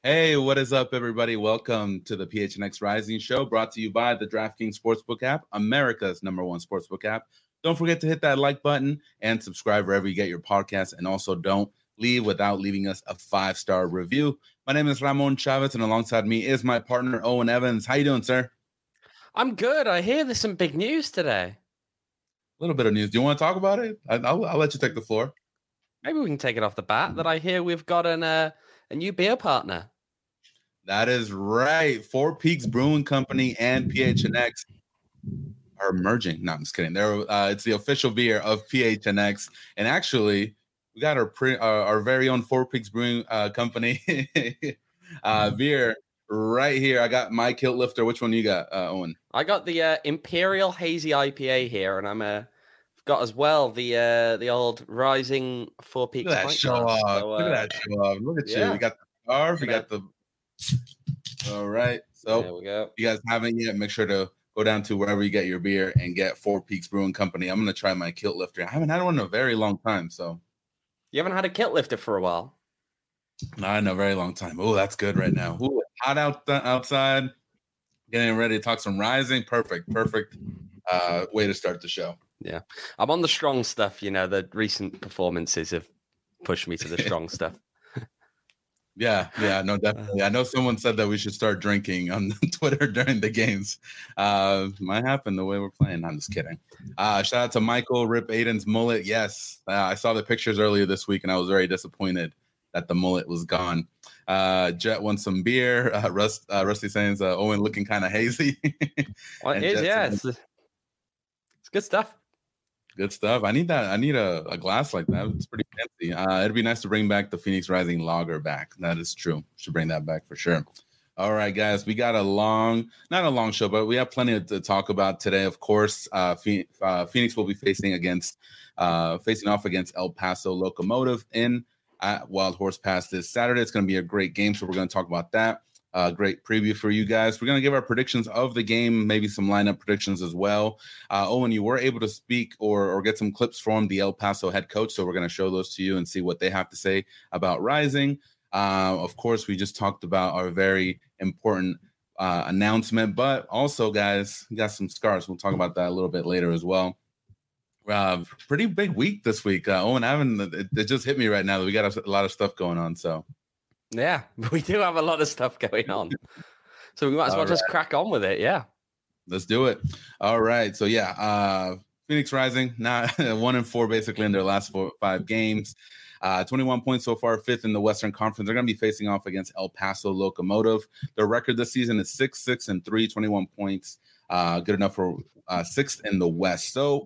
Hey, what is up, everybody? Welcome to the PHNX Rising Show, brought to you by the DraftKings Sportsbook app, America's #1 sportsbook app. Don't forget to hit that like button and subscribe wherever you get your podcasts. And also don't leave without leaving us a 5-star review. My name is Ramon Chavez, and alongside me is my partner, Owen Evans. How you doing, sir? I'm good. I hear there's some big news today. A little bit of news. Do you want to talk about it? I'll let you take the floor. Maybe we can take it off the bat that I hear we've got a new beer partner. That is right. Four Peaks Brewing Company and PHNX are merging. No, I'm just kidding. It's the official beer of PHNX, and actually, we got our very own Four Peaks Brewing Company beer right here. I got my Kilt Lifter. Which one you got, Owen? I got the Imperial Hazy IPA here, and I've got as well the old Rising Four Peaks. Look at that show off! So, look at that show off! Look at you! We got the scarf. We got the. All right. So there we go. If you guys haven't yet, make sure to go down to wherever you get your beer and get Four Peaks Brewing Company. I'm gonna try my Kilt Lifter. I haven't had one in a very long time. So you haven't had a Kilt Lifter for a while? Not in a very long time. Oh, that's good right now. Ooh, hot outside. Getting ready to talk some Rising. Perfect way to start the show. Yeah, I'm on the strong stuff. You know, the recent performances have pushed me to the strong stuff. Yeah, no, definitely. I know someone said that we should start drinking on Twitter during the games. Might happen the way we're playing. I'm just kidding. Shout out to Michael, Rip Aiden's mullet. Yes, I saw the pictures earlier this week, and I was very disappointed that the mullet was gone. Jet won some beer. Rusty saying, Owen looking kind of hazy. Well, it is, yeah. It's good stuff. Good stuff. I need that. I need a glass like that. It's pretty fancy. It'd be nice to bring back the Phoenix Rising Lager back. That is true. Should bring that back for sure. All right, guys. We got not a long show, but we have plenty to talk about today. Of course, Phoenix will be facing off against El Paso Locomotive in Wild Horse Pass this Saturday. It's going to be a great game, so we're going to talk about that. Great preview for you guys. We're going to give our predictions of the game, maybe some lineup predictions as well. Owen, you were able to speak or get some clips from the El Paso head coach, so we're going to show those to you and see what they have to say about Rising. Of course, we just talked about our very important announcement, but also, guys, we got some scars. We'll talk about that a little bit later as well. Pretty big week this week. Owen, it just hit me right now that we got a lot of stuff going on, so. Yeah, we do have a lot of stuff going on. So we might as well just crack on with it. Yeah. Let's do it. All right. So, Phoenix Rising, now 1-4 basically in their last 5 games. 21 points so far, 5th in the Western Conference. They're going to be facing off against El Paso Locomotive. Their record this season is 6-6-3, 21 points. Good enough for 6th in the West. So,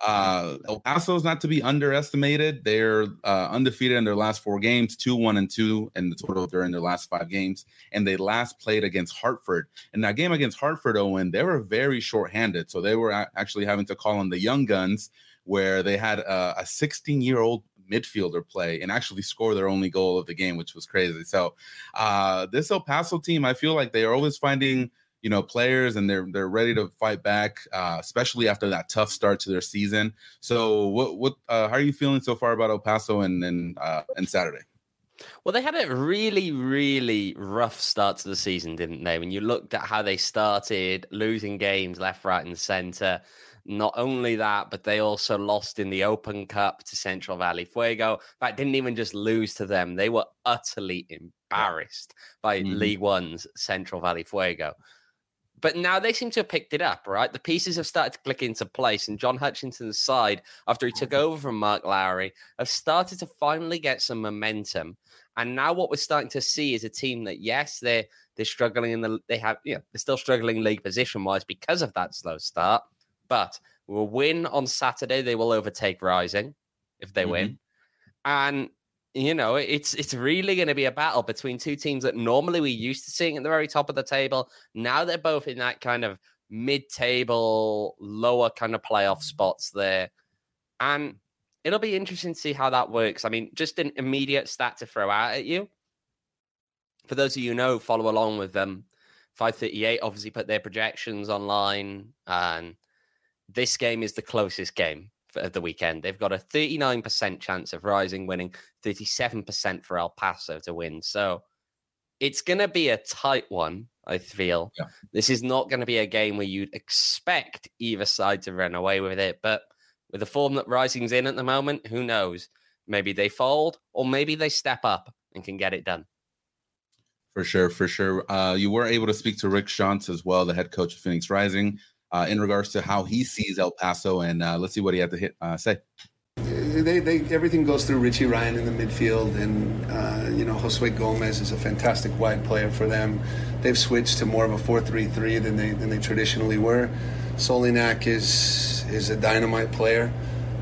El Paso is not to be underestimated. They're undefeated in their last 4 games, 2-1-2 in the total during their last 5 games. And they last played against Hartford. And that game against Hartford, Owen, they were very shorthanded. So they were actually having to call on the young guns, where they had a 16-year-old midfielder play and actually score their only goal of the game, which was crazy. So this El Paso team, I feel like they are always finding players, and they're ready to fight back, especially after that tough start to their season. So how are you feeling so far about El Paso and Saturday? Well, they had a really, really rough start to the season, didn't they? When you looked at how they started, losing games left, right, and center. Not only that, but they also lost in the Open Cup to Central Valley Fuego. In fact, didn't even just lose to them. They were utterly embarrassed by League One's Central Valley Fuego. But now they seem to have picked it up, right? The pieces have started to click into place, and John Hutchinson's side, after he took over from Mark Lowry, have started to finally get some momentum. And now what we're starting to see is a team that, yes, they're struggling they're still struggling league position wise because of that slow start. But will win on Saturday. They will overtake Rising if they win. And it's really going to be a battle between two teams that normally we're used to seeing at the very top of the table. Now they're both in that kind of mid-table, lower kind of playoff spots there. And it'll be interesting to see how that works. I mean, just an immediate stat to throw out at you. For those of you who know, follow along with them. 538 obviously put their projections online. And this game is the closest game of the weekend. They've got a 39% chance of Rising winning, 37% for El Paso to win. So It's going to be a tight one, I feel. Yeah. This is not going to be a game where you'd expect either side to run away with it. But with the form that Rising's in at the moment, who knows? Maybe they fold or maybe they step up and can get it done. For sure, for sure. You were able to speak to Rick Schantz as well, the head coach of Phoenix Rising, in regards to how he sees El Paso. And let's see what he had to say. Everything goes through Richie Ryan in the midfield, and Josue Gomez is a fantastic wide player for them. They've switched to more of a 4-3-3 than they traditionally were. Solinak is a dynamite player,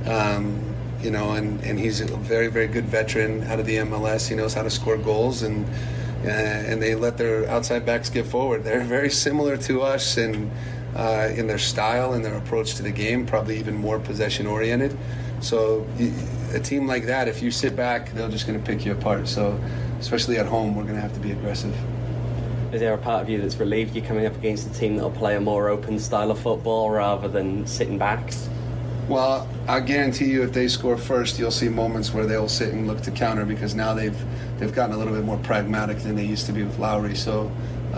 and he's a very, very good veteran out of the MLS. He knows how to score goals, and they let their outside backs get forward. They're very similar to us in their style and their approach to the game, probably even more possession oriented. So a team like that, if you sit back, they're just going to pick you apart. So especially at home, we're going to have to be aggressive. Is there a part of you that's relieved you're coming up against a team that will play a more open style of football rather than sitting back? Well, I guarantee you if they score first, you'll see moments where they'll sit and look to counter, because now they've gotten a little bit more pragmatic than they used to be with Lowry. So,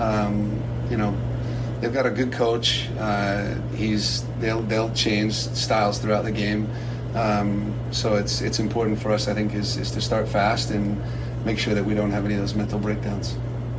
they've got a good coach. They'll change styles throughout the game. So it's important for us, I think, is to start fast and make sure that we don't have any of those mental breakdowns.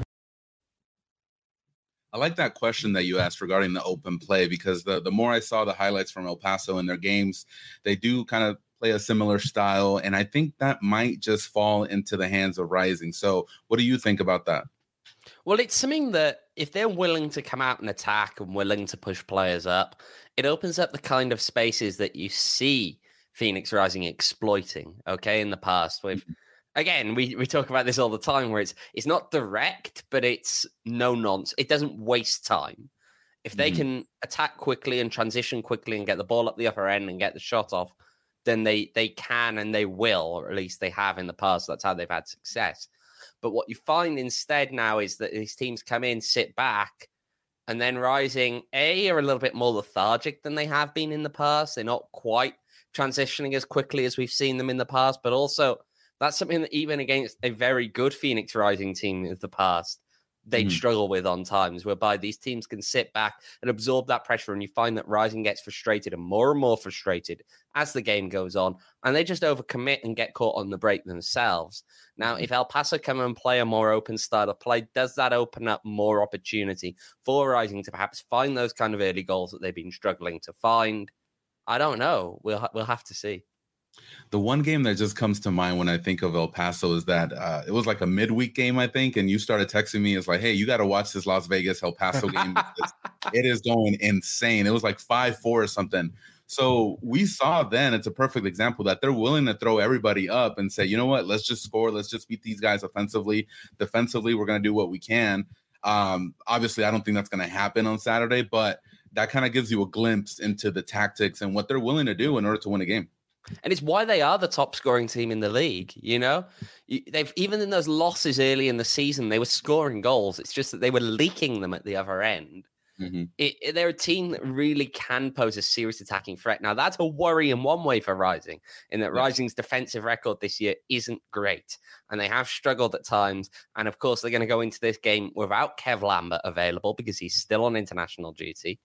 I like that question that you asked regarding the open play, because the more I saw the highlights from El Paso in their games, they do kind of play a similar style. And I think that might just fall into the hands of Rising. So what do you think about that? Well, it's something that if they're willing to come out and attack and willing to push players up, it opens up the kind of spaces that you see Phoenix Rising exploiting, okay, in the past. Again, we talk about this all the time, where it's not direct, but it's no nonsense. It doesn't waste time. If they can attack quickly and transition quickly and get the ball up the upper end and get the shot off, then they can and they will, or at least they have in the past. That's how they've had success. But what you find instead now is that these teams come in, sit back, and then Rising, are a little bit more lethargic than they have been in the past. They're not quite transitioning as quickly as we've seen them in the past, but also that's something that even against a very good Phoenix Rising team of the past, they'd struggle with on times, whereby these teams can sit back and absorb that pressure. And you find that Rising gets frustrated and more frustrated as the game goes on. And they just overcommit and get caught on the break themselves. Now, if El Paso come and play a more open style of play, does that open up more opportunity for Rising to perhaps find those kind of early goals that they've been struggling to find? I don't know. We'll have to see. The one game that just comes to mind when I think of El Paso is that it was like a midweek game, I think, and you started texting me. It's like, hey, you got to watch this Las Vegas El Paso game. It is going insane. It was like 5-4 or something. So we saw then, it's a perfect example that they're willing to throw everybody up and say, you know what, let's just score. Let's just beat these guys offensively. Defensively, we're going to do what we can. Obviously, I don't think that's going to happen on Saturday, but that kind of gives you a glimpse into the tactics and what they're willing to do in order to win a game. And it's why they are the top scoring team in the league. You know, they've even in those losses early in the season, they were scoring goals. It's just that they were leaking them at the other end. They're a team that really can pose a serious attacking threat. Now, that's a worry in one way for Rising, in that Rising's defensive record this year isn't great. And they have struggled at times. And of course, they're going to go into this game without Kev Lambert available because he's still on international duty.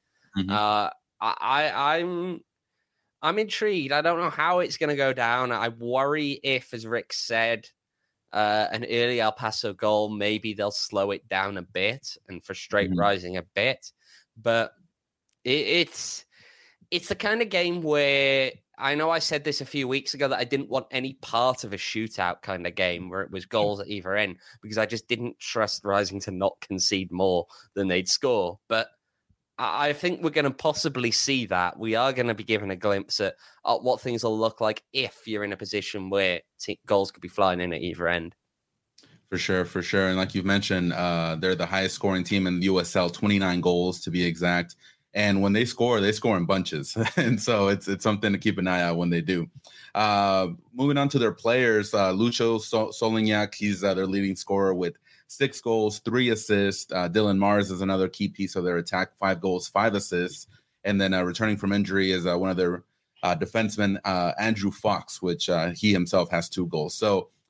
I'm intrigued. I don't know how it's going to go down. I worry if, as Rick said, an early El Paso goal, maybe they'll slow it down a bit and frustrate Rising a bit. But it's the kind of game where I know I said this a few weeks ago that I didn't want any part of a shootout kind of game where it was goals at either end, because I just didn't trust Rising to not concede more than they'd score. But I think we're going to possibly see that. We are going to be given a glimpse at what things will look like if you're in a position where goals could be flying in at either end. For sure. And like you've mentioned, they're the highest scoring team in the USL, 29 goals to be exact. And when they score in bunches. And so it's something to keep an eye out when they do. Moving on to their players, Lucho Solinak, he's their leading scorer with 6 goals, 3 assists. Dylan Mars is another key piece of their attack, 5 goals, 5 assists. And then returning from injury is one of their defensemen, Andrew Fox, which he himself has 2 goals. So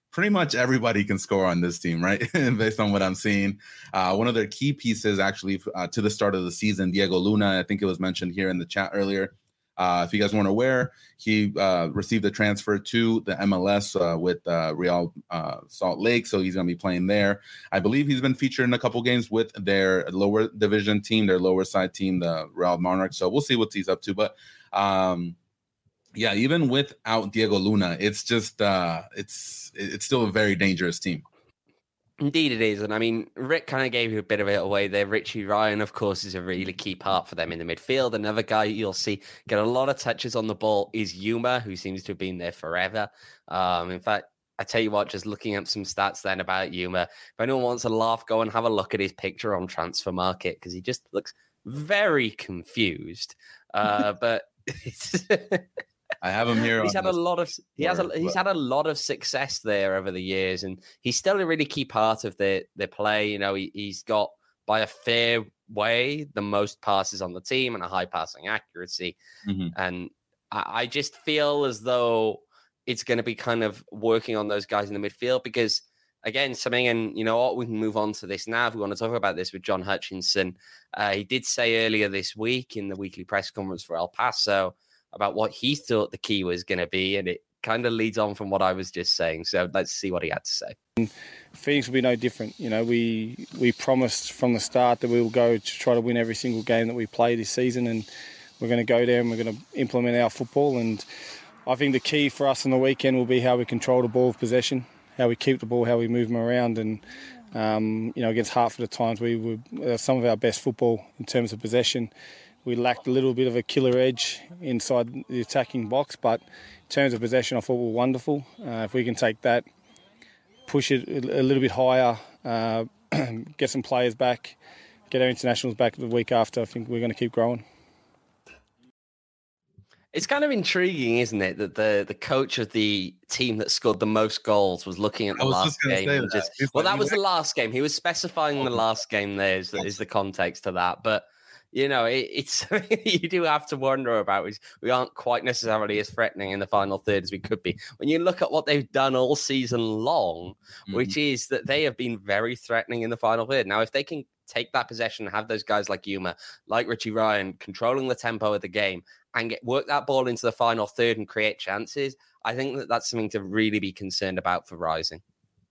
pretty much everybody can score on this team, right? Based on what I'm seeing. One of their key pieces actually to the start of the season, Diego Luna, I think it was mentioned here in the chat earlier. If you guys weren't aware, he received a transfer to the MLS with Real Salt Lake, so he's going to be playing there. I believe he's been featured in a couple games with their lower division team, their lower side team, the Real Monarchs. So we'll see what he's up to. But yeah, even without Diego Luna, it's just it's still a very dangerous team. Indeed it is. And I mean, Rick kind of gave you a bit of it away there. Richie Ryan, of course, is a really key part for them in the midfield. Another guy you'll see get a lot of touches on the ball is Yuma, who seems to have been there forever. In fact, I tell you what, just looking up some stats then about Yuma, if anyone wants a laugh, go and have a look at his picture on Transfer Market, because he just looks very confused. But I have him here. He's had a lot of success there over the years, and he's still a really key part of their play. You know, he's got by a fair way the most passes on the team and a high passing accuracy. Mm-hmm. And I just feel as though it's going to be kind of working on those guys in the midfield, because again, and you know what, we can move on to this now if we want to talk about this with John Hutchinson. He did say earlier this week in the weekly press conference for El Paso about what he thought the key was going to be, and it kind of leads on from what I was just saying. So let's see what he had to say. Phoenix will be no different. You know, we promised from the start that we will go to try to win every single game that we play this season, and we're going to go there and we're going to implement our football. And I think the key for us on the weekend will be how we control the ball of possession, how we keep the ball, how we move them around. And you know, against Hartford at times, we were some of our best football in terms of possession. We lacked a little bit of a killer edge inside the attacking box, but in terms of possession, I thought we were wonderful. If we can take that, push it a little bit higher, get some players back, get our internationals back the week after, I think we're going to keep growing. It's kind of intriguing, isn't it, that the coach of the team that scored the most goals was looking at the last game. That was the last game. He was specifying the last game there is the context to that. But you know, it's you do have to wonder about is we aren't quite necessarily as threatening in the final third as we could be. When you look at what they've done all season long, which is that they have been very threatening in the final third. Now, if they can take that possession and have those guys like Yuma, like Richie Ryan, controlling the tempo of the game and work that ball into the final third and create chances, I think that's something to really be concerned about for Rising.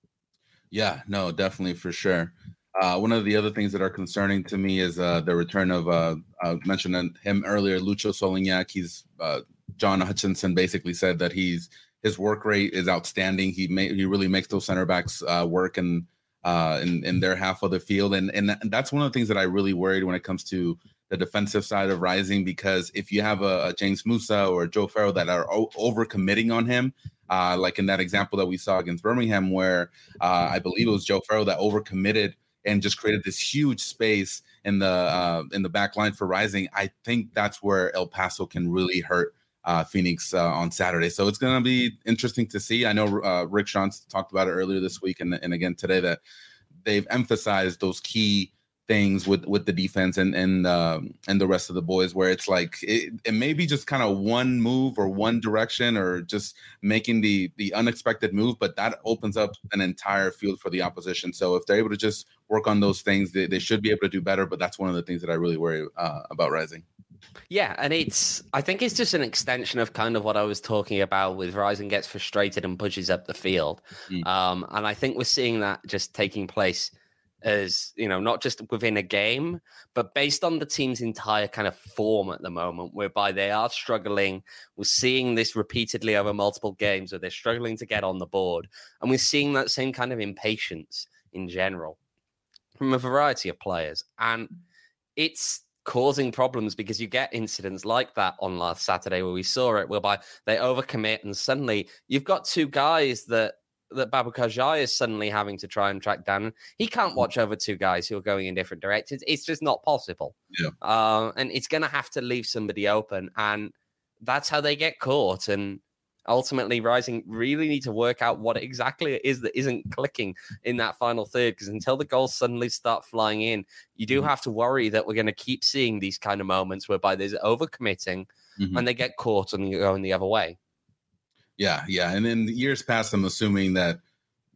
Yeah, no, definitely for sure. One of the other things that are concerning to me is the return of, I mentioned him earlier, Lucho Solignac. He's John Hutchinson basically said that his work rate is outstanding. He really makes those center backs work and in their half of the field. And that's one of the things that I really worried when it comes to the defensive side of Rising, because if you have a James Musa or Joe Farrell that are overcommitting on him, like in that example that we saw against Birmingham, where I believe it was Joe Farrell that overcommitted and just created this huge space in the back line for Rising, I think that's where El Paso can really hurt Phoenix on Saturday. So it's going to be interesting to see. I know Rick Schantz talked about it earlier this week and again today that they've emphasized those key things with the defense and the rest of the boys, where it's like it may be just kind of one move or one direction or just making the unexpected move, but that opens up an entire field for the opposition. So if they're able to just work on those things, they should be able to do better. But that's one of the things that I really worry about Rising. Yeah, and I think it's just an extension of kind of what I was talking about with Rising gets frustrated and pushes up the field. And I think we're seeing that just taking place as, you know, not just within a game, but based on the team's entire kind of form at the moment, whereby they are struggling. We're seeing this repeatedly over multiple games where they're struggling to get on the board. And we're seeing that same kind of impatience in general from a variety of players. And it's causing problems because you get incidents like that on last Saturday where we saw it, whereby they overcommit and suddenly you've got two guys that Baboucarr Jaï is suddenly having to try and track down. He can't watch over two guys who are going in different directions. It's just not possible. Yeah. And it's going to have to leave somebody open. And that's how they get caught. And ultimately, Rising really need to work out what exactly it is that isn't clicking in that final third. Because until the goals suddenly start flying in, you do have to worry that we're going to keep seeing these kind of moments whereby there's overcommitting and they get caught and you're going the other way. Yeah. And in years past, I'm assuming that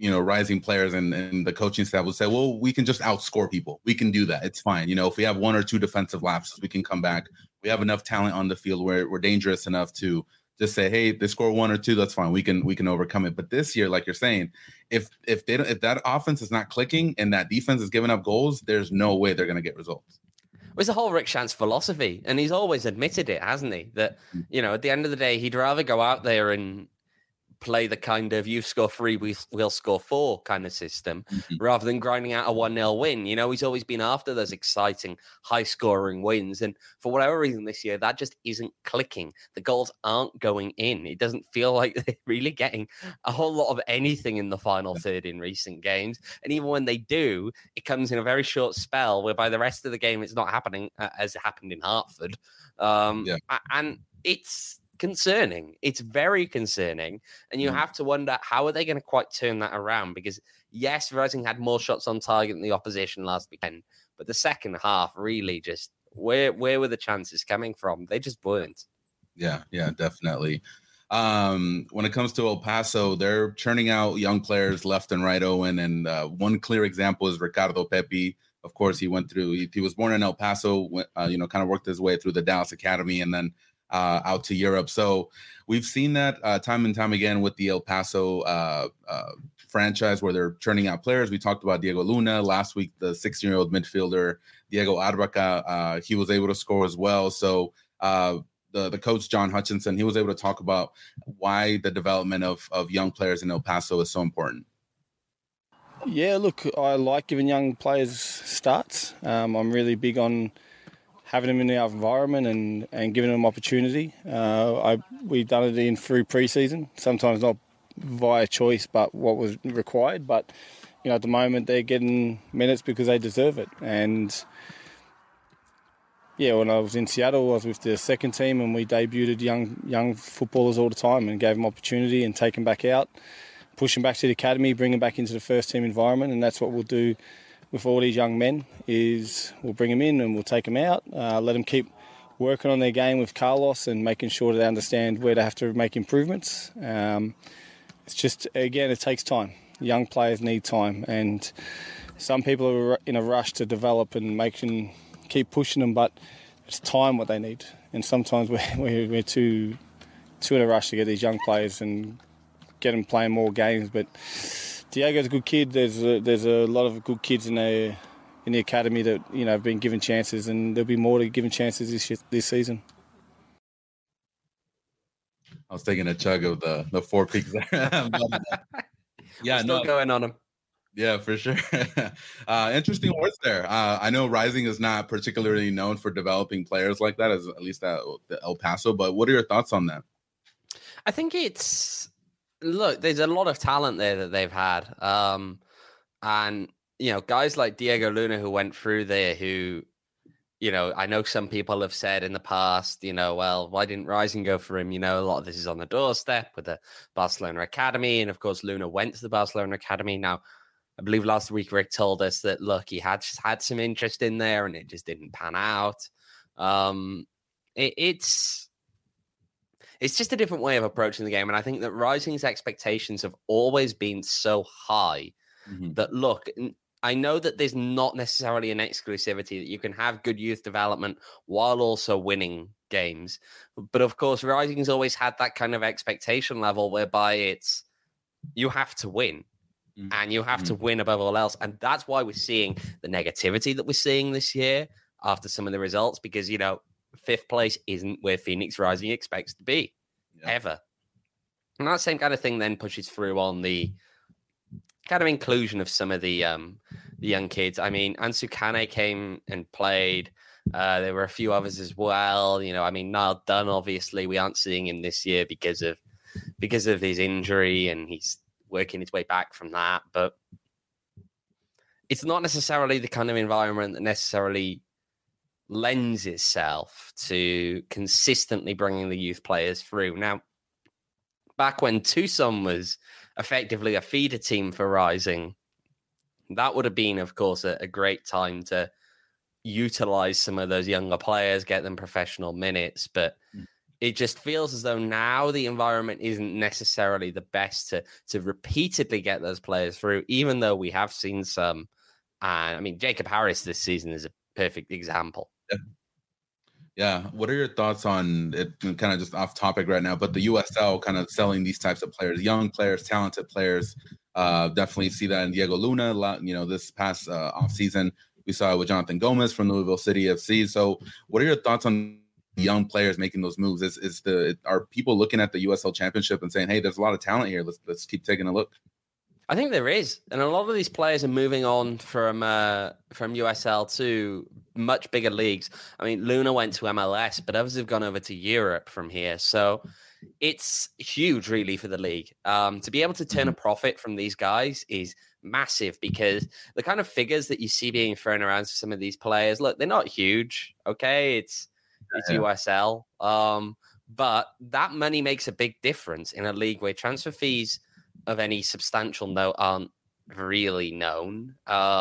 rising players and the coaching staff would say, well, we can just outscore people. We can do that. It's fine. If we have 1 or 2 defensive lapses, we can come back. We have enough talent on the field where we're dangerous enough to just say, hey, they score 1 or 2, that's fine. We can overcome it. But this year, like you're saying, if that offense is not clicking and that defense is giving up goals, there's no way they're going to get results. It's the whole Rick Shantz philosophy, and he's always admitted it, hasn't he? That, at the end of the day, he'd rather go out there and play the kind of you score 3, we'll score 4 kind of system rather than grinding out a 1-0 win. He's always been after those exciting, high-scoring wins. And for whatever reason this year, that just isn't clicking. The goals aren't going in. It doesn't feel like they're really getting a whole lot of anything in the final third in recent games. And even when they do, it comes in a very short spell whereby the rest of the game it's not happening as it happened in Hartford. And it's concerning. It's very concerning. And you have to wonder, how are they going to quite turn that around? Because yes, Rising had more shots on target than the opposition last weekend, but the second half really just, where were the chances coming from? They just weren't. Yeah, definitely. When it comes to El Paso, they're churning out young players left and right, Owen. And one clear example is Ricardo Pepi. Of course, he was born in El Paso, kind of worked his way through the Dallas Academy and then out to Europe. So we've seen that time and time again with the El Paso franchise where they're churning out players. We talked about Diego Luna last week, the 16-year-old midfielder, Diego Arbaca. He was able to score as well. So the coach, John Hutchinson, he was able to talk about why the development of young players in El Paso is so important. Yeah, look, I like giving young players starts. I'm really big on having them in our environment and giving them opportunity. We've done it through pre-season, sometimes not via choice, but what was required. But, at the moment they're getting minutes because they deserve it. And, yeah, when I was in Seattle, I was with the second team and we debuted young footballers all the time and gave them opportunity and take them back out, push them back to the academy, bring them back into the first team environment. And that's what we'll do with all these young men, is we'll bring them in and we'll take them out, let them keep working on their game with Carlos and making sure that they understand where they have to make improvements. It's just, again, it takes time. Young players need time, and some people are in a rush to develop and keep pushing them, but it's time what they need. And sometimes we're too in a rush to get these young players and get them playing more games. But Diego's a good kid. There's a lot of good kids in the academy that have been given chances, and there'll be more to given chances this season. I was taking a chug of the 4 Peaks there. Yeah, still going on them. Yeah, for sure. Interesting words there. I know Rising is not particularly known for developing players like that, at least at El Paso. But what are your thoughts on that? I think look, there's a lot of talent there that they've had. And, guys like Diego Luna who went through there who, I know some people have said in the past, well, why didn't Rising go for him? A lot of this is on the doorstep with the Barcelona Academy. And of course, Luna went to the Barcelona Academy. Now, I believe last week Rick told us that, look, he had some interest in there and it just didn't pan out. It's just a different way of approaching the game. And I think that Rising's expectations have always been so high that, look, I know that there's not necessarily an exclusivity that you can have good youth development while also winning games. But of course, Rising's always had that kind of expectation level whereby it's, you have to win. And you have to win above all else. And that's why we're seeing the negativity that we're seeing this year after some of the results, because, 5th place isn't where Phoenix Rising expects to be, ever. And that same kind of thing then pushes through on the kind of inclusion of some of the young kids. I mean, Ansu Kane came and played. There were a few others as well. Niall Dunn, obviously, we aren't seeing him this year because of his injury, and he's working his way back from that. But it's not necessarily the kind of environment that necessarily lends itself to consistently bringing the youth players through. Now, back when Tucson was effectively a feeder team for Rising, that would have been, of course, a great time to utilize some of those younger players, get them professional minutes. But it just feels as though now the environment isn't necessarily the best to repeatedly get those players through, even though we have seen some. And I mean, Jacob Harris this season is a perfect example. Yeah. What are your thoughts on it? Kind of just off topic right now, but the USL kind of selling these types of players, young players, talented players. Definitely see that in Diego Luna. This past off season, we saw it with Jonathan Gomez from Louisville City FC. So, what are your thoughts on young players making those moves? Are people looking at the USL Championship and saying, "Hey, there's a lot of talent here. Let's keep taking a look"? I think there is, and a lot of these players are moving on from USL to much bigger leagues. I mean, Luna went to MLS, but others have gone over to Europe from here. So it's huge, really, for the league. To be able to turn a profit from these guys is massive, because the kind of figures that you see being thrown around to some of these players, look, they're not huge. Okay, it's USL, but that money makes a big difference in a league where transfer fees of any substantial note aren't really known,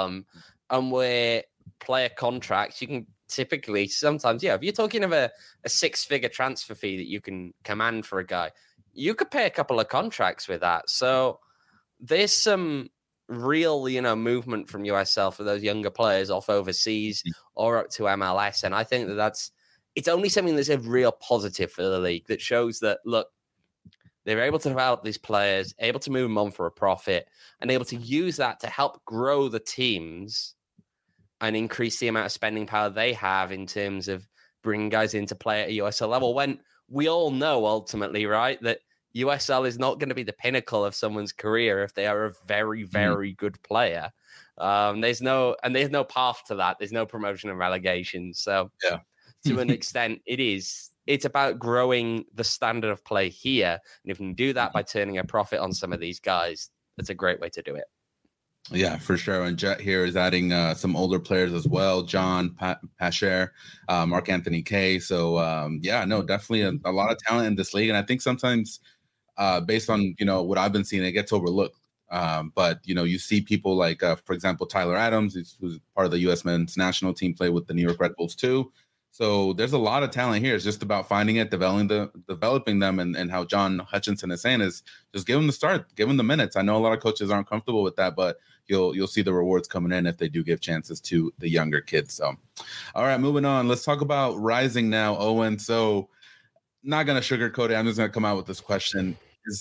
and where player contracts, you can typically sometimes, if you're talking of a 6-figure transfer fee that you can command for a guy, you could pay a couple of contracts with that. So there's some real, movement from USL for those younger players off overseas or up to MLS, and I think it's only something that's a real positive for the league, that shows that, look, they're able to develop these players, able to move them on for a profit, and able to use that to help grow the teams and increase the amount of spending power they have in terms of bringing guys in to play at a USL level, when we all know ultimately, right, that USL is not going to be the pinnacle of someone's career if they are a very, very good player. There's no path to that. There's no promotion and relegation. So to an extent, it's about growing the standard of play here. And if you can do that by turning a profit on some of these guys, that's a great way to do it. Yeah, for sure. And Jet here is adding some older players as well. John Pasher, Mark Anthony Kay. So, definitely a lot of talent in this league. And I think sometimes based on, what I've been seeing, it gets overlooked. But, you see people like, for example, Tyler Adams, who's part of the U.S. men's national team, play with the New York Red Bulls too. So there's a lot of talent here. It's just about finding it, developing them, and how John Hutchinson is saying is just give them the start, give them the minutes. I know a lot of coaches aren't comfortable with that, but you'll see the rewards coming in if they do give chances to the younger kids. So, all right, moving on. Let's talk about Rising now, Owen. So, not gonna sugarcoat it. I'm just gonna come out with this question: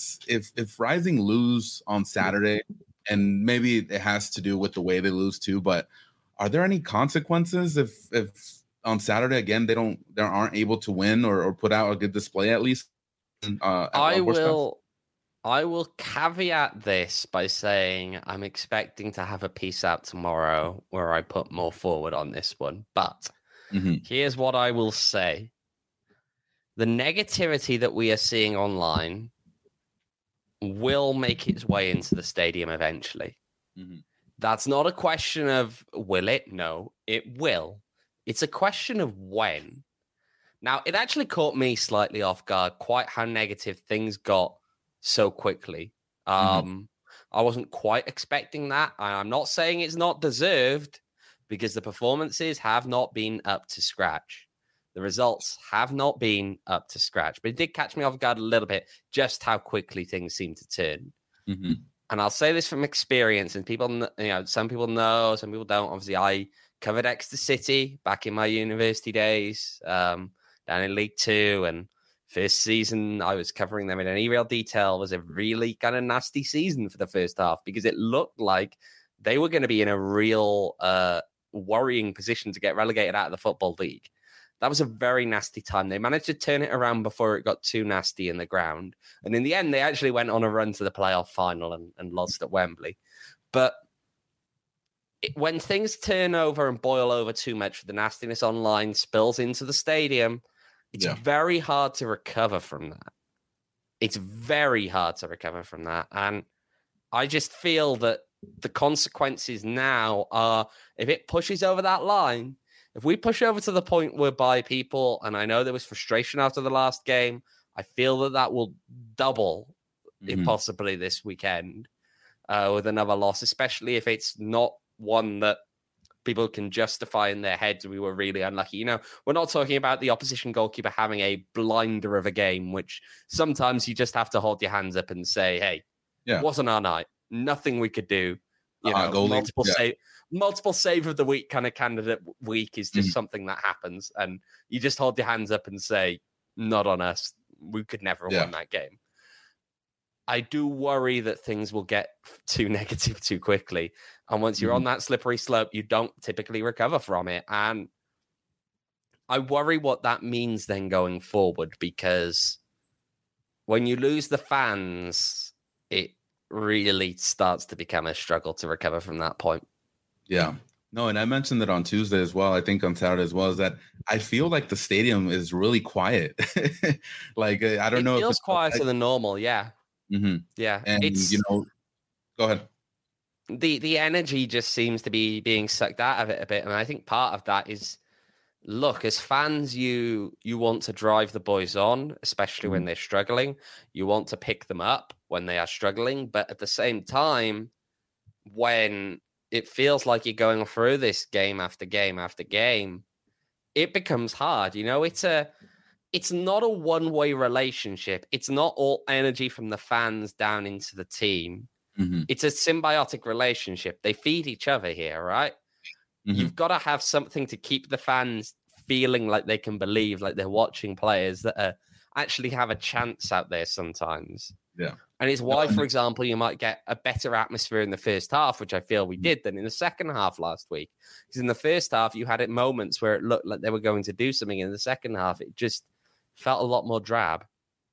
if Rising lose on Saturday, and maybe it has to do with the way they lose too, but are there any consequences if on Saturday again they aren't able to win or put out a good display at least? I will caveat this by saying I'm expecting to have a piece out tomorrow where I put more forward on this one. But here's what I will say. The negativity that we are seeing online will make its way into the stadium eventually. That's not a question of will it? No, it will. It's a question of when. Now, it actually caught me slightly off guard, quite how negative things got so quickly. I wasn't quite expecting that. I'm not saying it's not deserved, because the performances have not been up to scratch. The results have not been up to scratch, but it did catch me off guard a little bit, just how quickly things seem to turn. And I'll say this from experience, and people, some people know, some people don't. Obviously, I covered Exeter City back in my university days, down in League Two, and first season I was covering them in any real detail. Was a really kind of nasty season for the first half, because it looked like they were going to be in a real worrying position to get relegated out of the Football League. That was a very nasty time. They managed to turn it around before it got too nasty in the ground. And in the end, they actually went on a run to the playoff final and lost at Wembley. But when things turn over and boil over too much, the nastiness online spills into the stadium, it's very hard to recover from that. It's very hard to recover from that. And I just feel that the consequences now are, if it pushes over that line, if we push over to the point whereby people, and I know there was frustration after the last game, I feel that will double, if possibly this weekend, with another loss, especially if it's not one that people can justify in their heads we were really unlucky. You know, we're not talking about the opposition goalkeeper having a blinder of a game, which sometimes you just have to hold your hands up and say, hey, it wasn't our night. Nothing we could do. You know, multiple save of the week kind of candidate week is just something that happens. And you just hold your hands up and say, not on us. We could never have won that game. I do worry that things will get too negative too quickly. And once you're on that slippery slope, you don't typically recover from it. And I worry what that means then going forward, because when you lose the fans, it really starts to become a struggle to recover from that point. Yeah. No, and I mentioned it on Tuesday as well. I think on Saturday as well, is that I feel like the stadium is really quiet. Like, I don't know. It feels quieter than normal. Yeah. Mm-hmm. Yeah. And, go ahead. The energy just seems to be being sucked out of it a bit. And I think part of that is, look, as fans, you want to drive the boys on, especially when they're struggling. You want to pick them up when they are struggling. But at the same time, when it feels like you're going through this game after game after game, it becomes hard. You know, it's not a one-way relationship. It's not all energy from the fans down into the team. Mm-hmm. It's a symbiotic relationship. They feed each other here, right? Mm-hmm. You've got to have something to keep the fans feeling like they can believe, like they're watching players that actually have a chance out there sometimes. Yeah. And it's why, for example, you might get a better atmosphere in the first half, which I feel we did, than in the second half last week. Because in the first half, you had moments where it looked like they were going to do something. In the second half, it just felt a lot more drab.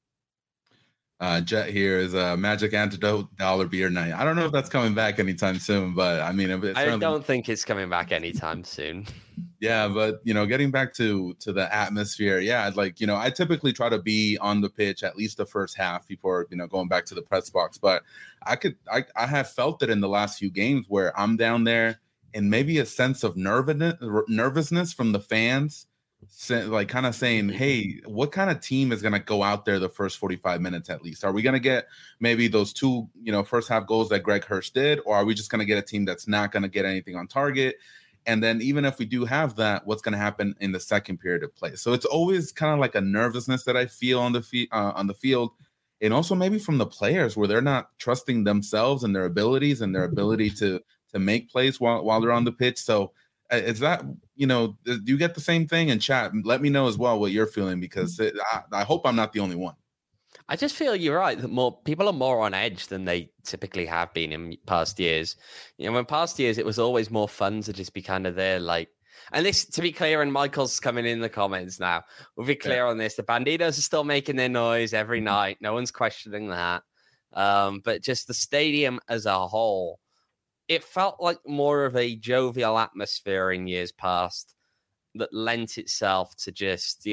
Jet here is a Magic Antidote Dollar Beer Night. I don't know if that's coming back anytime soon, but I mean, I don't think it's coming back anytime soon. Yeah, but getting back to the atmosphere, I typically try to be on the pitch at least the first half before going back to the press box. But I have felt it in the last few games where I'm down there and maybe a sense of nervousness from the fans. Like kind of saying, hey, what kind of team is going to go out there the first 45 minutes at least? Are we going to get maybe those two, first half goals that Greg Hurst did? Or are we just going to get a team that's not going to get anything on target? And then even if we do have that, what's going to happen in the second period of play? So it's always kind of like a nervousness that I feel on the field. And also maybe from the players where they're not trusting themselves and their abilities and their ability to make plays while they're on the pitch. So is that, do you get the same thing? In chat, let me know as well what you're feeling, because I hope I'm not the only one. I just feel you're right that more people are more on edge than they typically have been in past years. In past years, it was always more fun to just be kind of there, like, and this, to be clear, and Michael's coming in the comments now, we'll be clear on this. The Bandidos are still making their noise every night. No one's questioning that. But just the stadium as a whole, it felt like more of a jovial atmosphere in years past that lent itself to just,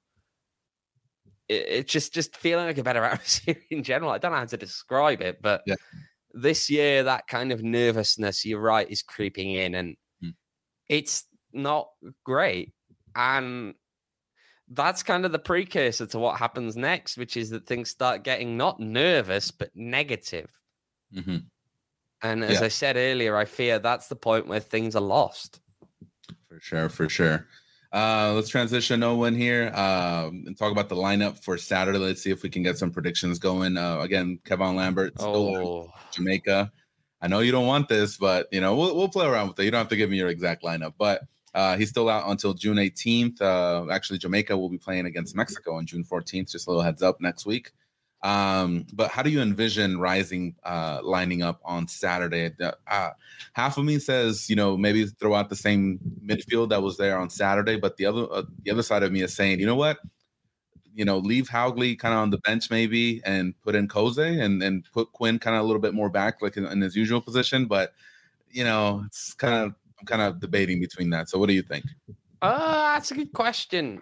it's just feeling like a better atmosphere in general. I don't know how to describe it, but this year, that kind of nervousness, you're right, is creeping in, and it's not great. And that's kind of the precursor to what happens next, which is that things start getting not nervous, but negative. Mm-hmm. And as I said earlier, I fear that's the point where things are lost. For sure. Let's transition Owen here and talk about the lineup for Saturday. Let's see if we can get some predictions going. Again, Kevin Lambert, Jamaica. I know you don't want this, but we'll play around with it. You don't have to give me your exact lineup, but he's still out until June 18th. Actually, Jamaica will be playing against Mexico on June 14th. Just a little heads up next week. But how do you envision Rising lining up on Saturday? Half of me says, maybe throw out the same midfield that was there on Saturday, but the other side of me is saying, you know what? Leave Haugley kind of on the bench maybe and put in Koze and put Quinn kind of a little bit more back, like in his usual position. But, it's I'm kind of debating between that. So what do you think? That's a good question.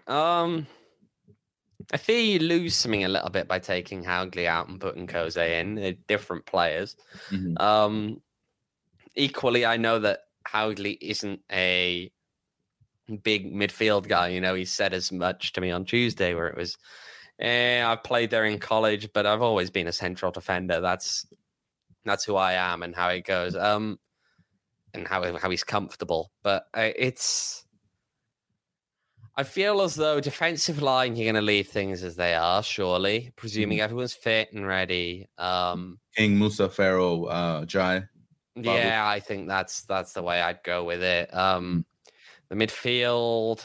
I fear you lose something a little bit by taking Haugley out and putting Koze in. They're different players. Mm-hmm. Equally, I know that Haugley isn't a big midfield guy. He said as much to me on Tuesday, where it was, I've played there in college, but I've always been a central defender. That's who I am and how it goes. and how he's comfortable. But I feel as though defensive line, you're going to leave things as they are, surely, presuming everyone's fit and ready. King, Musa, Farrell, Jai. Yeah, I think that's the way I'd go with it. The midfield.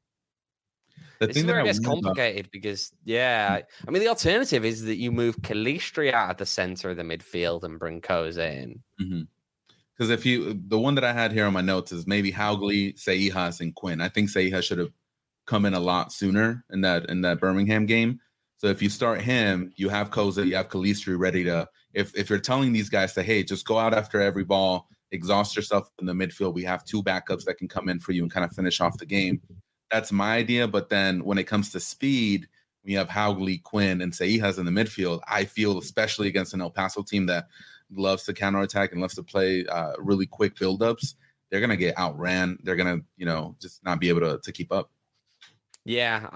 This is where it gets complicated because, I mean, the alternative is that you move Calistri out of the center of the midfield and bring Koza in. Because the one that I had here on my notes is maybe Haugley, Seijas, and Quinn. I think Seijas should have come in a lot sooner in that Birmingham game. So if you start him, you have Koza, you have Calistri ready to. If you're telling these guys to, hey, just go out after every ball, exhaust yourself in the midfield. We have 2 backups that can come in for you and kind of finish off the game. That's my idea. But then when it comes to speed, we have Haugley, Quinn, and Seijas in the midfield. I feel, especially against an El Paso team that loves to counterattack and loves to play really quick buildups, they're going to get outran. They're going to, just not be able to keep up. Yeah,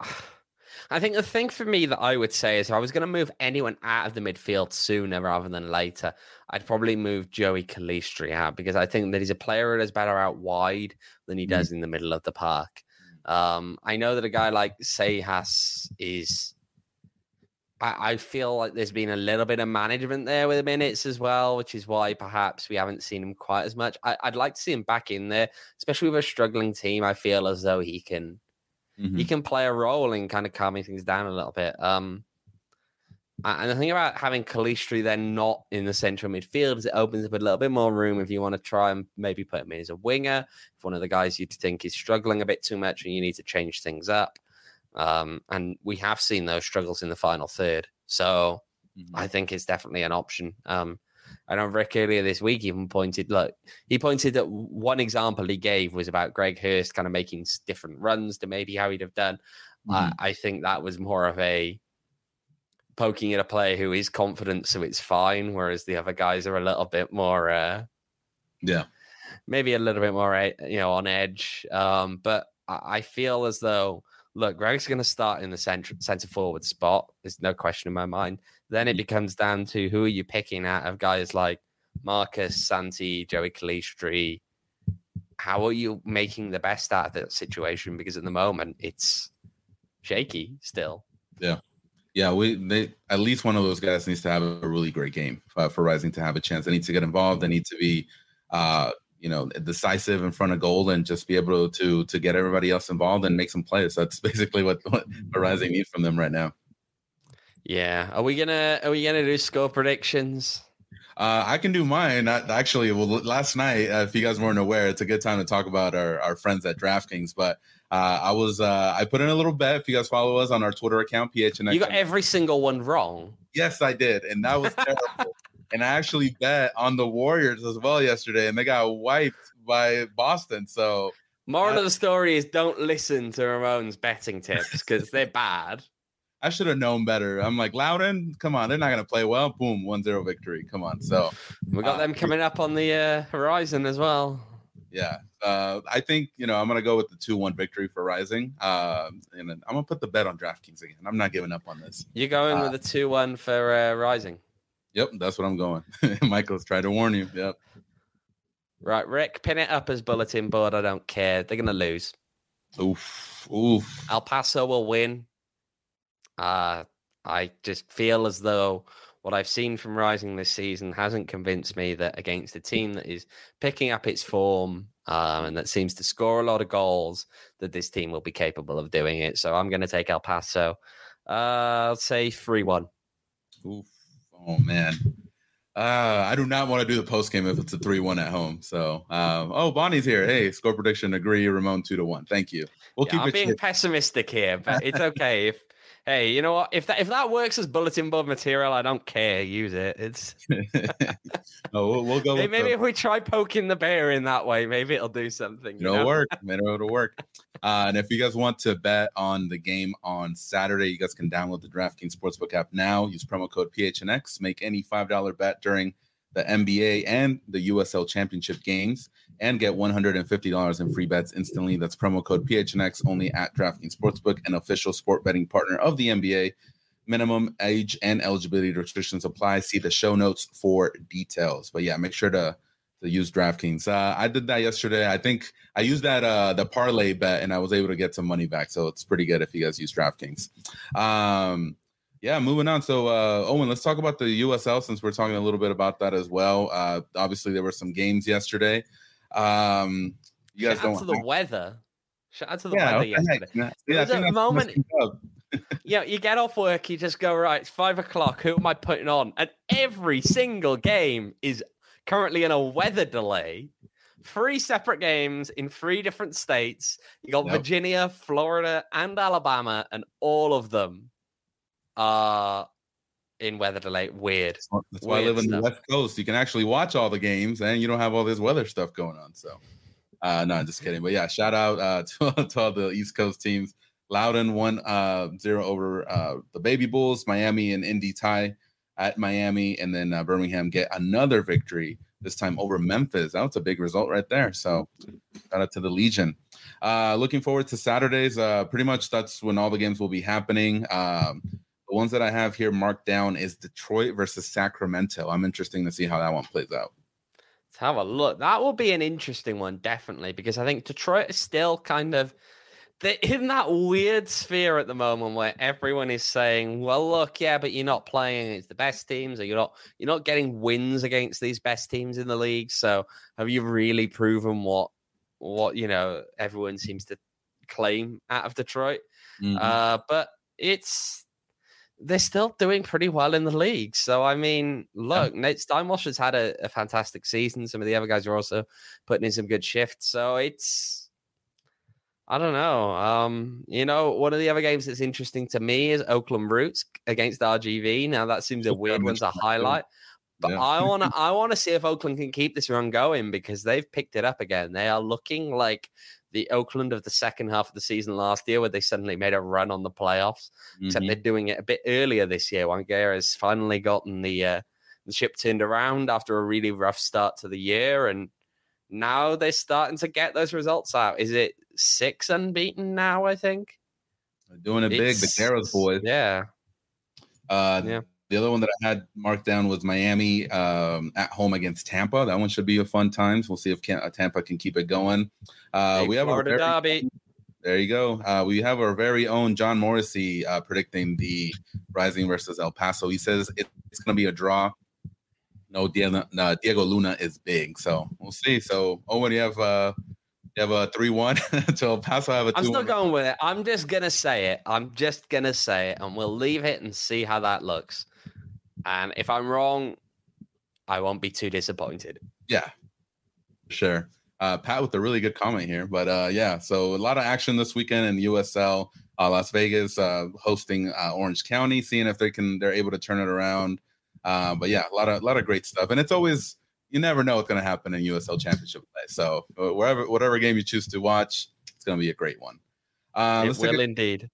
I think the thing for me that I would say is if I was going to move anyone out of the midfield sooner rather than later, I'd probably move Joey Calistri out because I think that he's a player that is better out wide than he does in the middle of the park. I know that a guy like Seijas is... I feel like there's been a little bit of management there with the minutes as well, which is why perhaps we haven't seen him quite as much. I'd like to see him back in there, especially with a struggling team. I feel as though he can play a role in kind of calming things down a little bit. And the thing about having Calistri then not in the central midfield is it opens up a little bit more room if you want to try and maybe put him in as a winger, if one of the guys you think is struggling a bit too much and you need to change things up. And we have seen those struggles in the final third. So I think it's definitely an option. I know Rick earlier this week even pointed that one example he gave was about Greg Hurst kind of making different runs to maybe how he'd have done. I think that was more of a poking at a player who is confident, so it's fine. Whereas the other guys are a little bit more, maybe a little bit more, on edge. But I feel as though, look, Greg's going to start in the center forward spot. There's no question in my mind. Then it becomes down to who are you picking out of guys like Marcus, Santi, Joey Calistri. How are you making the best out of that situation? Because at the moment, it's shaky still. Yeah. They at least one of those guys needs to have a really great game for Rising to have a chance. They need to get involved. They need to be, decisive in front of goal and just be able to get everybody else involved and make some plays. So that's basically what Rising needs from them right now. Yeah. Are we gonna do score predictions? I can do mine. Last night, if you guys weren't aware, it's a good time to talk about our friends at DraftKings. But I put in a little bet. If you guys follow us on our Twitter account, PHNX. You got every single one wrong. Yes, I did, and that was terrible. And I actually bet on the Warriors as well yesterday, and they got wiped by Boston. So, moral of the story is don't listen to Ramon's betting tips because they're bad. I should have known better. I'm like, Loudon, come on, they're not going to play well. Boom, 1-0 victory. Come on. So we got them coming up on the horizon as well. Yeah. I think, I'm going to go with the 2-1 victory for Rising. And I'm going to put the bet on DraftKings again. I'm not giving up on this. You're going with the 2-1 for Rising? Yep, that's what I'm going. Michael's tried to warn you. Yep. Right, Rick, pin it up as bulletin board. I don't care. They're going to lose. Oof. El Paso will win. I just feel as though what I've seen from Rising this season hasn't convinced me that against a team that is picking up its form and that seems to score a lot of goals, that this team will be capable of doing it. So I'm going to take El Paso. I'll say 3-1. Oof. Oh, man. I do not want to do the post game if it's a 3-1 at home. So, Bonnie's here. Hey, score prediction, agree, Ramon 2-1. Thank you. I'm being pessimistic here, but it's okay. Hey, you know what? If that works as bulletin board material, I don't care. Use it. It's we'll go. Maybe if we try poking the bear in that way, maybe it'll do something. It'll work. It'll work. And if you guys want to bet on the game on Saturday, you guys can download the DraftKings Sportsbook app now. Use promo code PHNX. Make any $5 bet during the NBA and the USL Championship games and get $150 in free bets instantly. That's promo code PHNX only at DraftKings Sportsbook, an official sport betting partner of the NBA. Minimum age and eligibility restrictions apply. See the show notes for details. But yeah, make sure to to use DraftKings. I did that yesterday. I think I used that the parlay bet, and I was able to get some money back. So it's pretty good if you guys use DraftKings. Yeah, moving on. So Owen, let's talk about the USL since we're talking a little bit about that as well. Obviously, there were some games yesterday. You guys Shout don't out to the weather. Shout out to the weather yesterday. Yeah, I think a moment. Yeah, you get off work, you just go, right, it's 5 o'clock. Who am I putting on? And every single game is currently in a weather delay. 3 separate games in 3 different states. You got Virginia, Florida, and Alabama, and all of them are in weather delay. Weird. That's why I live in the West Coast. You can actually watch all the games, and you don't have all this weather stuff going on. So, no, I'm just kidding. But yeah, shout out to all the East Coast teams. Loudoun won 0 over the Baby Bulls. Miami and Indy tie at Miami. And then Birmingham get another victory, this time over Memphis. That was a big result right there. So shout out to the Legion. Looking forward to Saturdays. Pretty much that's when all the games will be happening. The ones that I have here marked down is Detroit versus Sacramento. I'm interested to see how that one plays out. Let's have a look. That will be an interesting one, definitely, because I think Detroit is still kind of... they're in that weird sphere at the moment where everyone is saying, well, look, yeah, but you're not playing against the best teams, or you're not getting wins against these best teams in the league. So have you really proven what everyone seems to claim out of Detroit? Mm-hmm. But they're still doing pretty well in the league. So, I mean, look, Nate Steinwasser's has had a fantastic season. Some of the other guys are also putting in some good shifts. So I don't know. One of the other games that's interesting to me is Oakland Roots against RGV. Now that seems a weird one to highlight, but yeah. I want to see if Oakland can keep this run going because they've picked it up again. They are looking like the Oakland of the second half of the season last year, where they suddenly made a run on the playoffs. Mm-hmm. Except they're doing it a bit earlier this year. Wanguera has finally gotten the ship turned around after a really rough start to the year, and now they're starting to get those results out. Is it 6 unbeaten now, I think? They're doing it big, the Garros boys. Yeah. The other one that I had marked down was Miami at home against Tampa. That one should be a fun time. So we'll see if Tampa can keep it going. We have Florida derby. There you go. We have our very own John Morrissey predicting the Rising versus El Paso. He says it's going to be a draw. No, Diego Luna is big. So we'll see. So, Owen, you have a 3-1 to El Paso. I have a 2-1. I'm still going with it. I'm just going to say it. And we'll leave it and see how that looks. And if I'm wrong, I won't be too disappointed. Yeah, sure. Pat with a really good comment here. But, yeah, so a lot of action this weekend in USL. Las Vegas hosting Orange County, seeing if they're able to turn it around. But, yeah, a lot of great stuff. And it's always – you never know what's going to happen in USL Championship play. So whatever game you choose to watch, it's going to be a great one. It will indeed.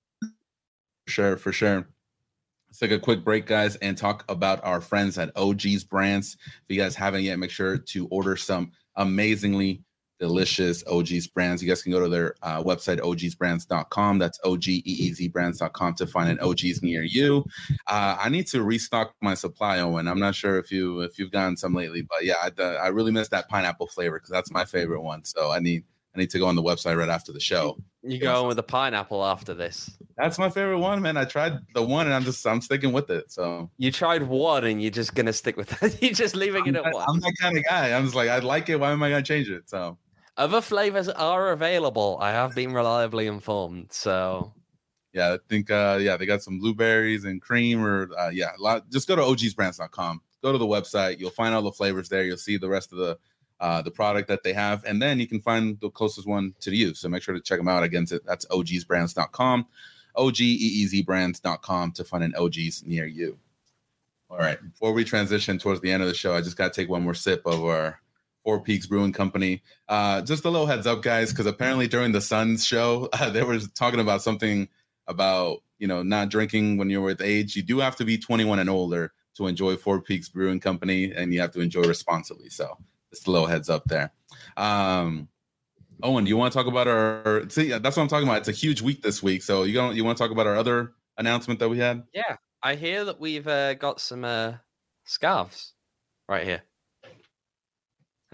For sure. Let's take a quick break, guys, and talk about our friends at OG's Brands. If you guys haven't yet, make sure to order some amazingly delicious OG's Brands. You guys can go to their website, ogsbrands.com. That's OGEEZbrands.com to find an OG's near you. I need to restock my supply, Owen. I'm not sure if you've gotten some lately, but yeah, I really miss that pineapple flavor because that's my favorite one. So I need to go on the website right after the show. You going with the pineapple after this? That's my favorite one, man. I tried the one, and I'm sticking with it. So you tried one, and you're just gonna stick with it. You're just leaving it at one. I'm that kind of guy. I'm just like, I like it. Why am I gonna change it? So other flavors are available. I have been reliably informed. So yeah, I think they got some blueberries and cream, or just go to ogsbrands.com. Go to the website. You'll find all the flavors there. You'll see the rest of the product that they have, and then you can find the closest one to you. So make sure to check them out. Again, that's ogsbrands.com, OGEEZbrands.com to find an OG's near you. All right. Before we transition towards the end of the show, I just got to take one more sip of our Four Peaks Brewing Company. Just a little heads up, guys, because apparently during the Suns show, they were talking about something about, not drinking when you're with age. You do have to be 21 and older to enjoy Four Peaks Brewing Company, and you have to enjoy responsibly. So just a little heads up there. Owen, do you want to talk about see, that's what I'm talking about. It's a huge week this week. So you want to talk about our other announcement that we had? Yeah. I hear that we've got some scarves right here.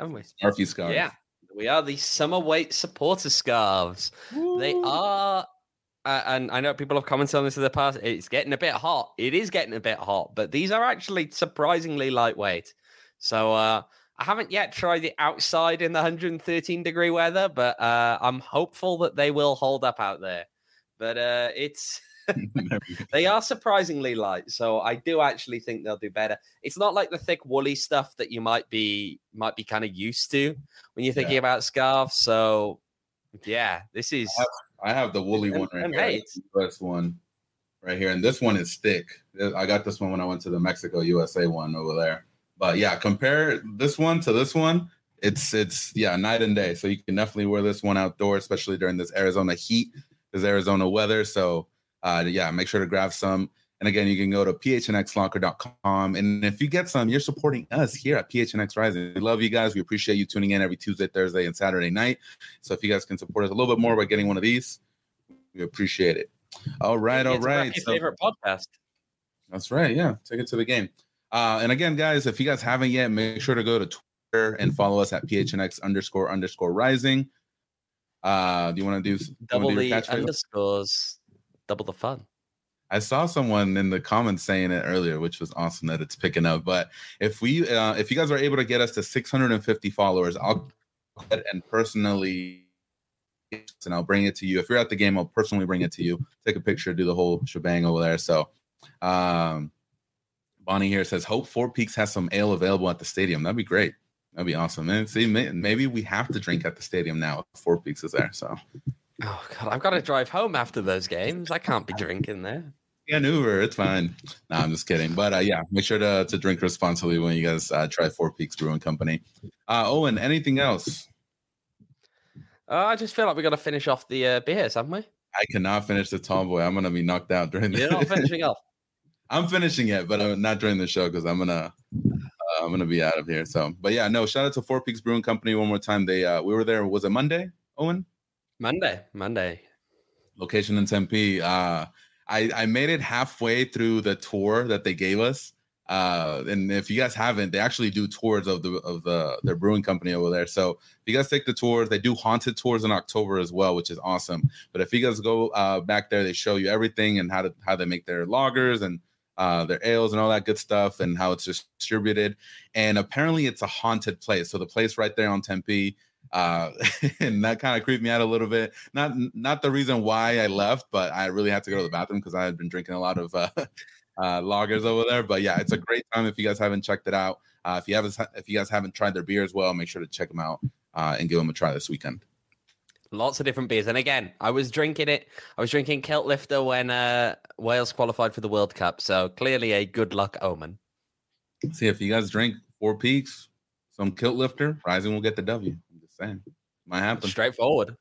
haven't we? Scarfy scarf. Yeah, we are the Summer Weight supporter scarves. Woo. They are, and I know people have commented on this in the past. It's getting a bit hot. It is getting a bit hot, but these are actually surprisingly lightweight. So I haven't yet tried it outside in the 113-degree weather, but I'm hopeful that they will hold up out there. But it's... They are surprisingly light, so I do actually think they'll do better. It's not like the thick woolly stuff that you might be kind of used to when you're thinking about scarves. So yeah, this is I have the woolly one right here. It's the best one right here, and this one is thick. I got this one when I went to the Mexico USA one over there. But yeah, compare this one to this one. It's night and day. So you can definitely wear this one outdoors, especially during this Arizona heat, this Arizona weather. So make sure to grab some. And again, you can go to phnxlocker.com. And if you get some, you're supporting us here at PHNX Rising. We love you guys. We appreciate you tuning in every Tuesday, Thursday, and Saturday night. So if you guys can support us a little bit more by getting one of these, we appreciate it. All right. Your favorite podcast. That's right. Yeah. Take it to the game. And again, guys, if you guys haven't yet, make sure to go to Twitter and follow us at PHNX__rising. Do you want to do double the underscores? Double the fun. I saw someone in the comments saying it earlier, which was awesome that it's picking up. But if you guys are able to get us to 650 followers, I'll go ahead and personally, and I'll bring it to you. If you're at the game, I'll personally bring it to you. Take a picture, do the whole shebang over there. So, Bonnie here says, hope Four Peaks has some ale available at the stadium. That'd be great. That'd be awesome. And see, maybe we have to drink at the stadium now if Four Peaks is there. So. Oh, God, I've got to drive home after those games. I can't be drinking there. Yeah, an Uber. It's fine. No, I'm just kidding. But, make sure to drink responsibly when you guys try Four Peaks Brewing Company. Owen, anything else? I just feel like we got to finish off the beers, haven't we? I cannot finish the tall boy. I'm going to be knocked out during the... You're not finishing off? I'm finishing it, but not during the show because I'm gonna be out of here. So, but yeah, no. Shout out to Four Peaks Brewing Company one more time. They we were there. Was it Monday, Owen? Monday. Location in Tempe. I made it halfway through the tour that they gave us. And if you guys haven't, they actually do tours of their brewing company over there. So if you guys take the tours, they do haunted tours in October as well, which is awesome. But if you guys go back there, they show you everything and how they make their lagers and their ales and all that good stuff and how it's distributed. And apparently it's a haunted place. So the place right there on Tempe, and that kind of creeped me out a little bit. Not the reason why I left, but I really had to go to the bathroom because I had been drinking a lot of lagers over there. But yeah, it's a great time if you guys haven't checked it out. If you guys haven't tried their beer as well, make sure to check them out and give them a try this weekend. Lots of different beers. And again, I was drinking Kilt Lifter when Wales qualified for the World Cup. So clearly a good luck omen. See, if you guys drink Four Peaks, some Kilt Lifter, Rising will get the W. I'm just saying. Might happen. Straightforward.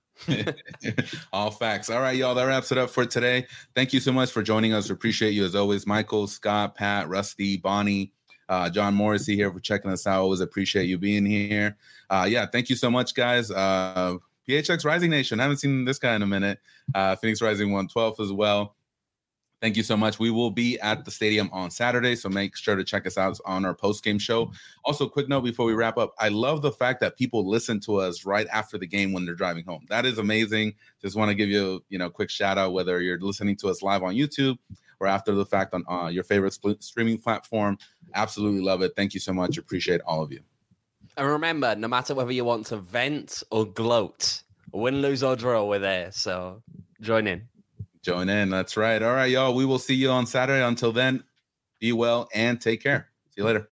All facts. All right, y'all. That wraps it up for today. Thank you so much for joining us. We appreciate you as always. Michael, Scott, Pat, Rusty, Bonnie, John Morrissey here for checking us out. Always appreciate you being here. Thank you so much, guys. PHX Rising Nation. I haven't seen this guy in a minute. Phoenix Rising 112 as well. Thank you so much. We will be at the stadium on Saturday, so make sure to check us out on our post-game show. Also, quick note before we wrap up, I love the fact that people listen to us right after the game when they're driving home. That is amazing. Just want to give you a quick shout out, whether you're listening to us live on YouTube or after the fact on your favorite streaming platform. Absolutely love it. Thank you so much. Appreciate all of you. And remember, no matter whether you want to vent or gloat, win, lose, or draw, we're there. So join in. That's right. All right, y'all. We will see you on Saturday. Until then, be well and take care. See you later.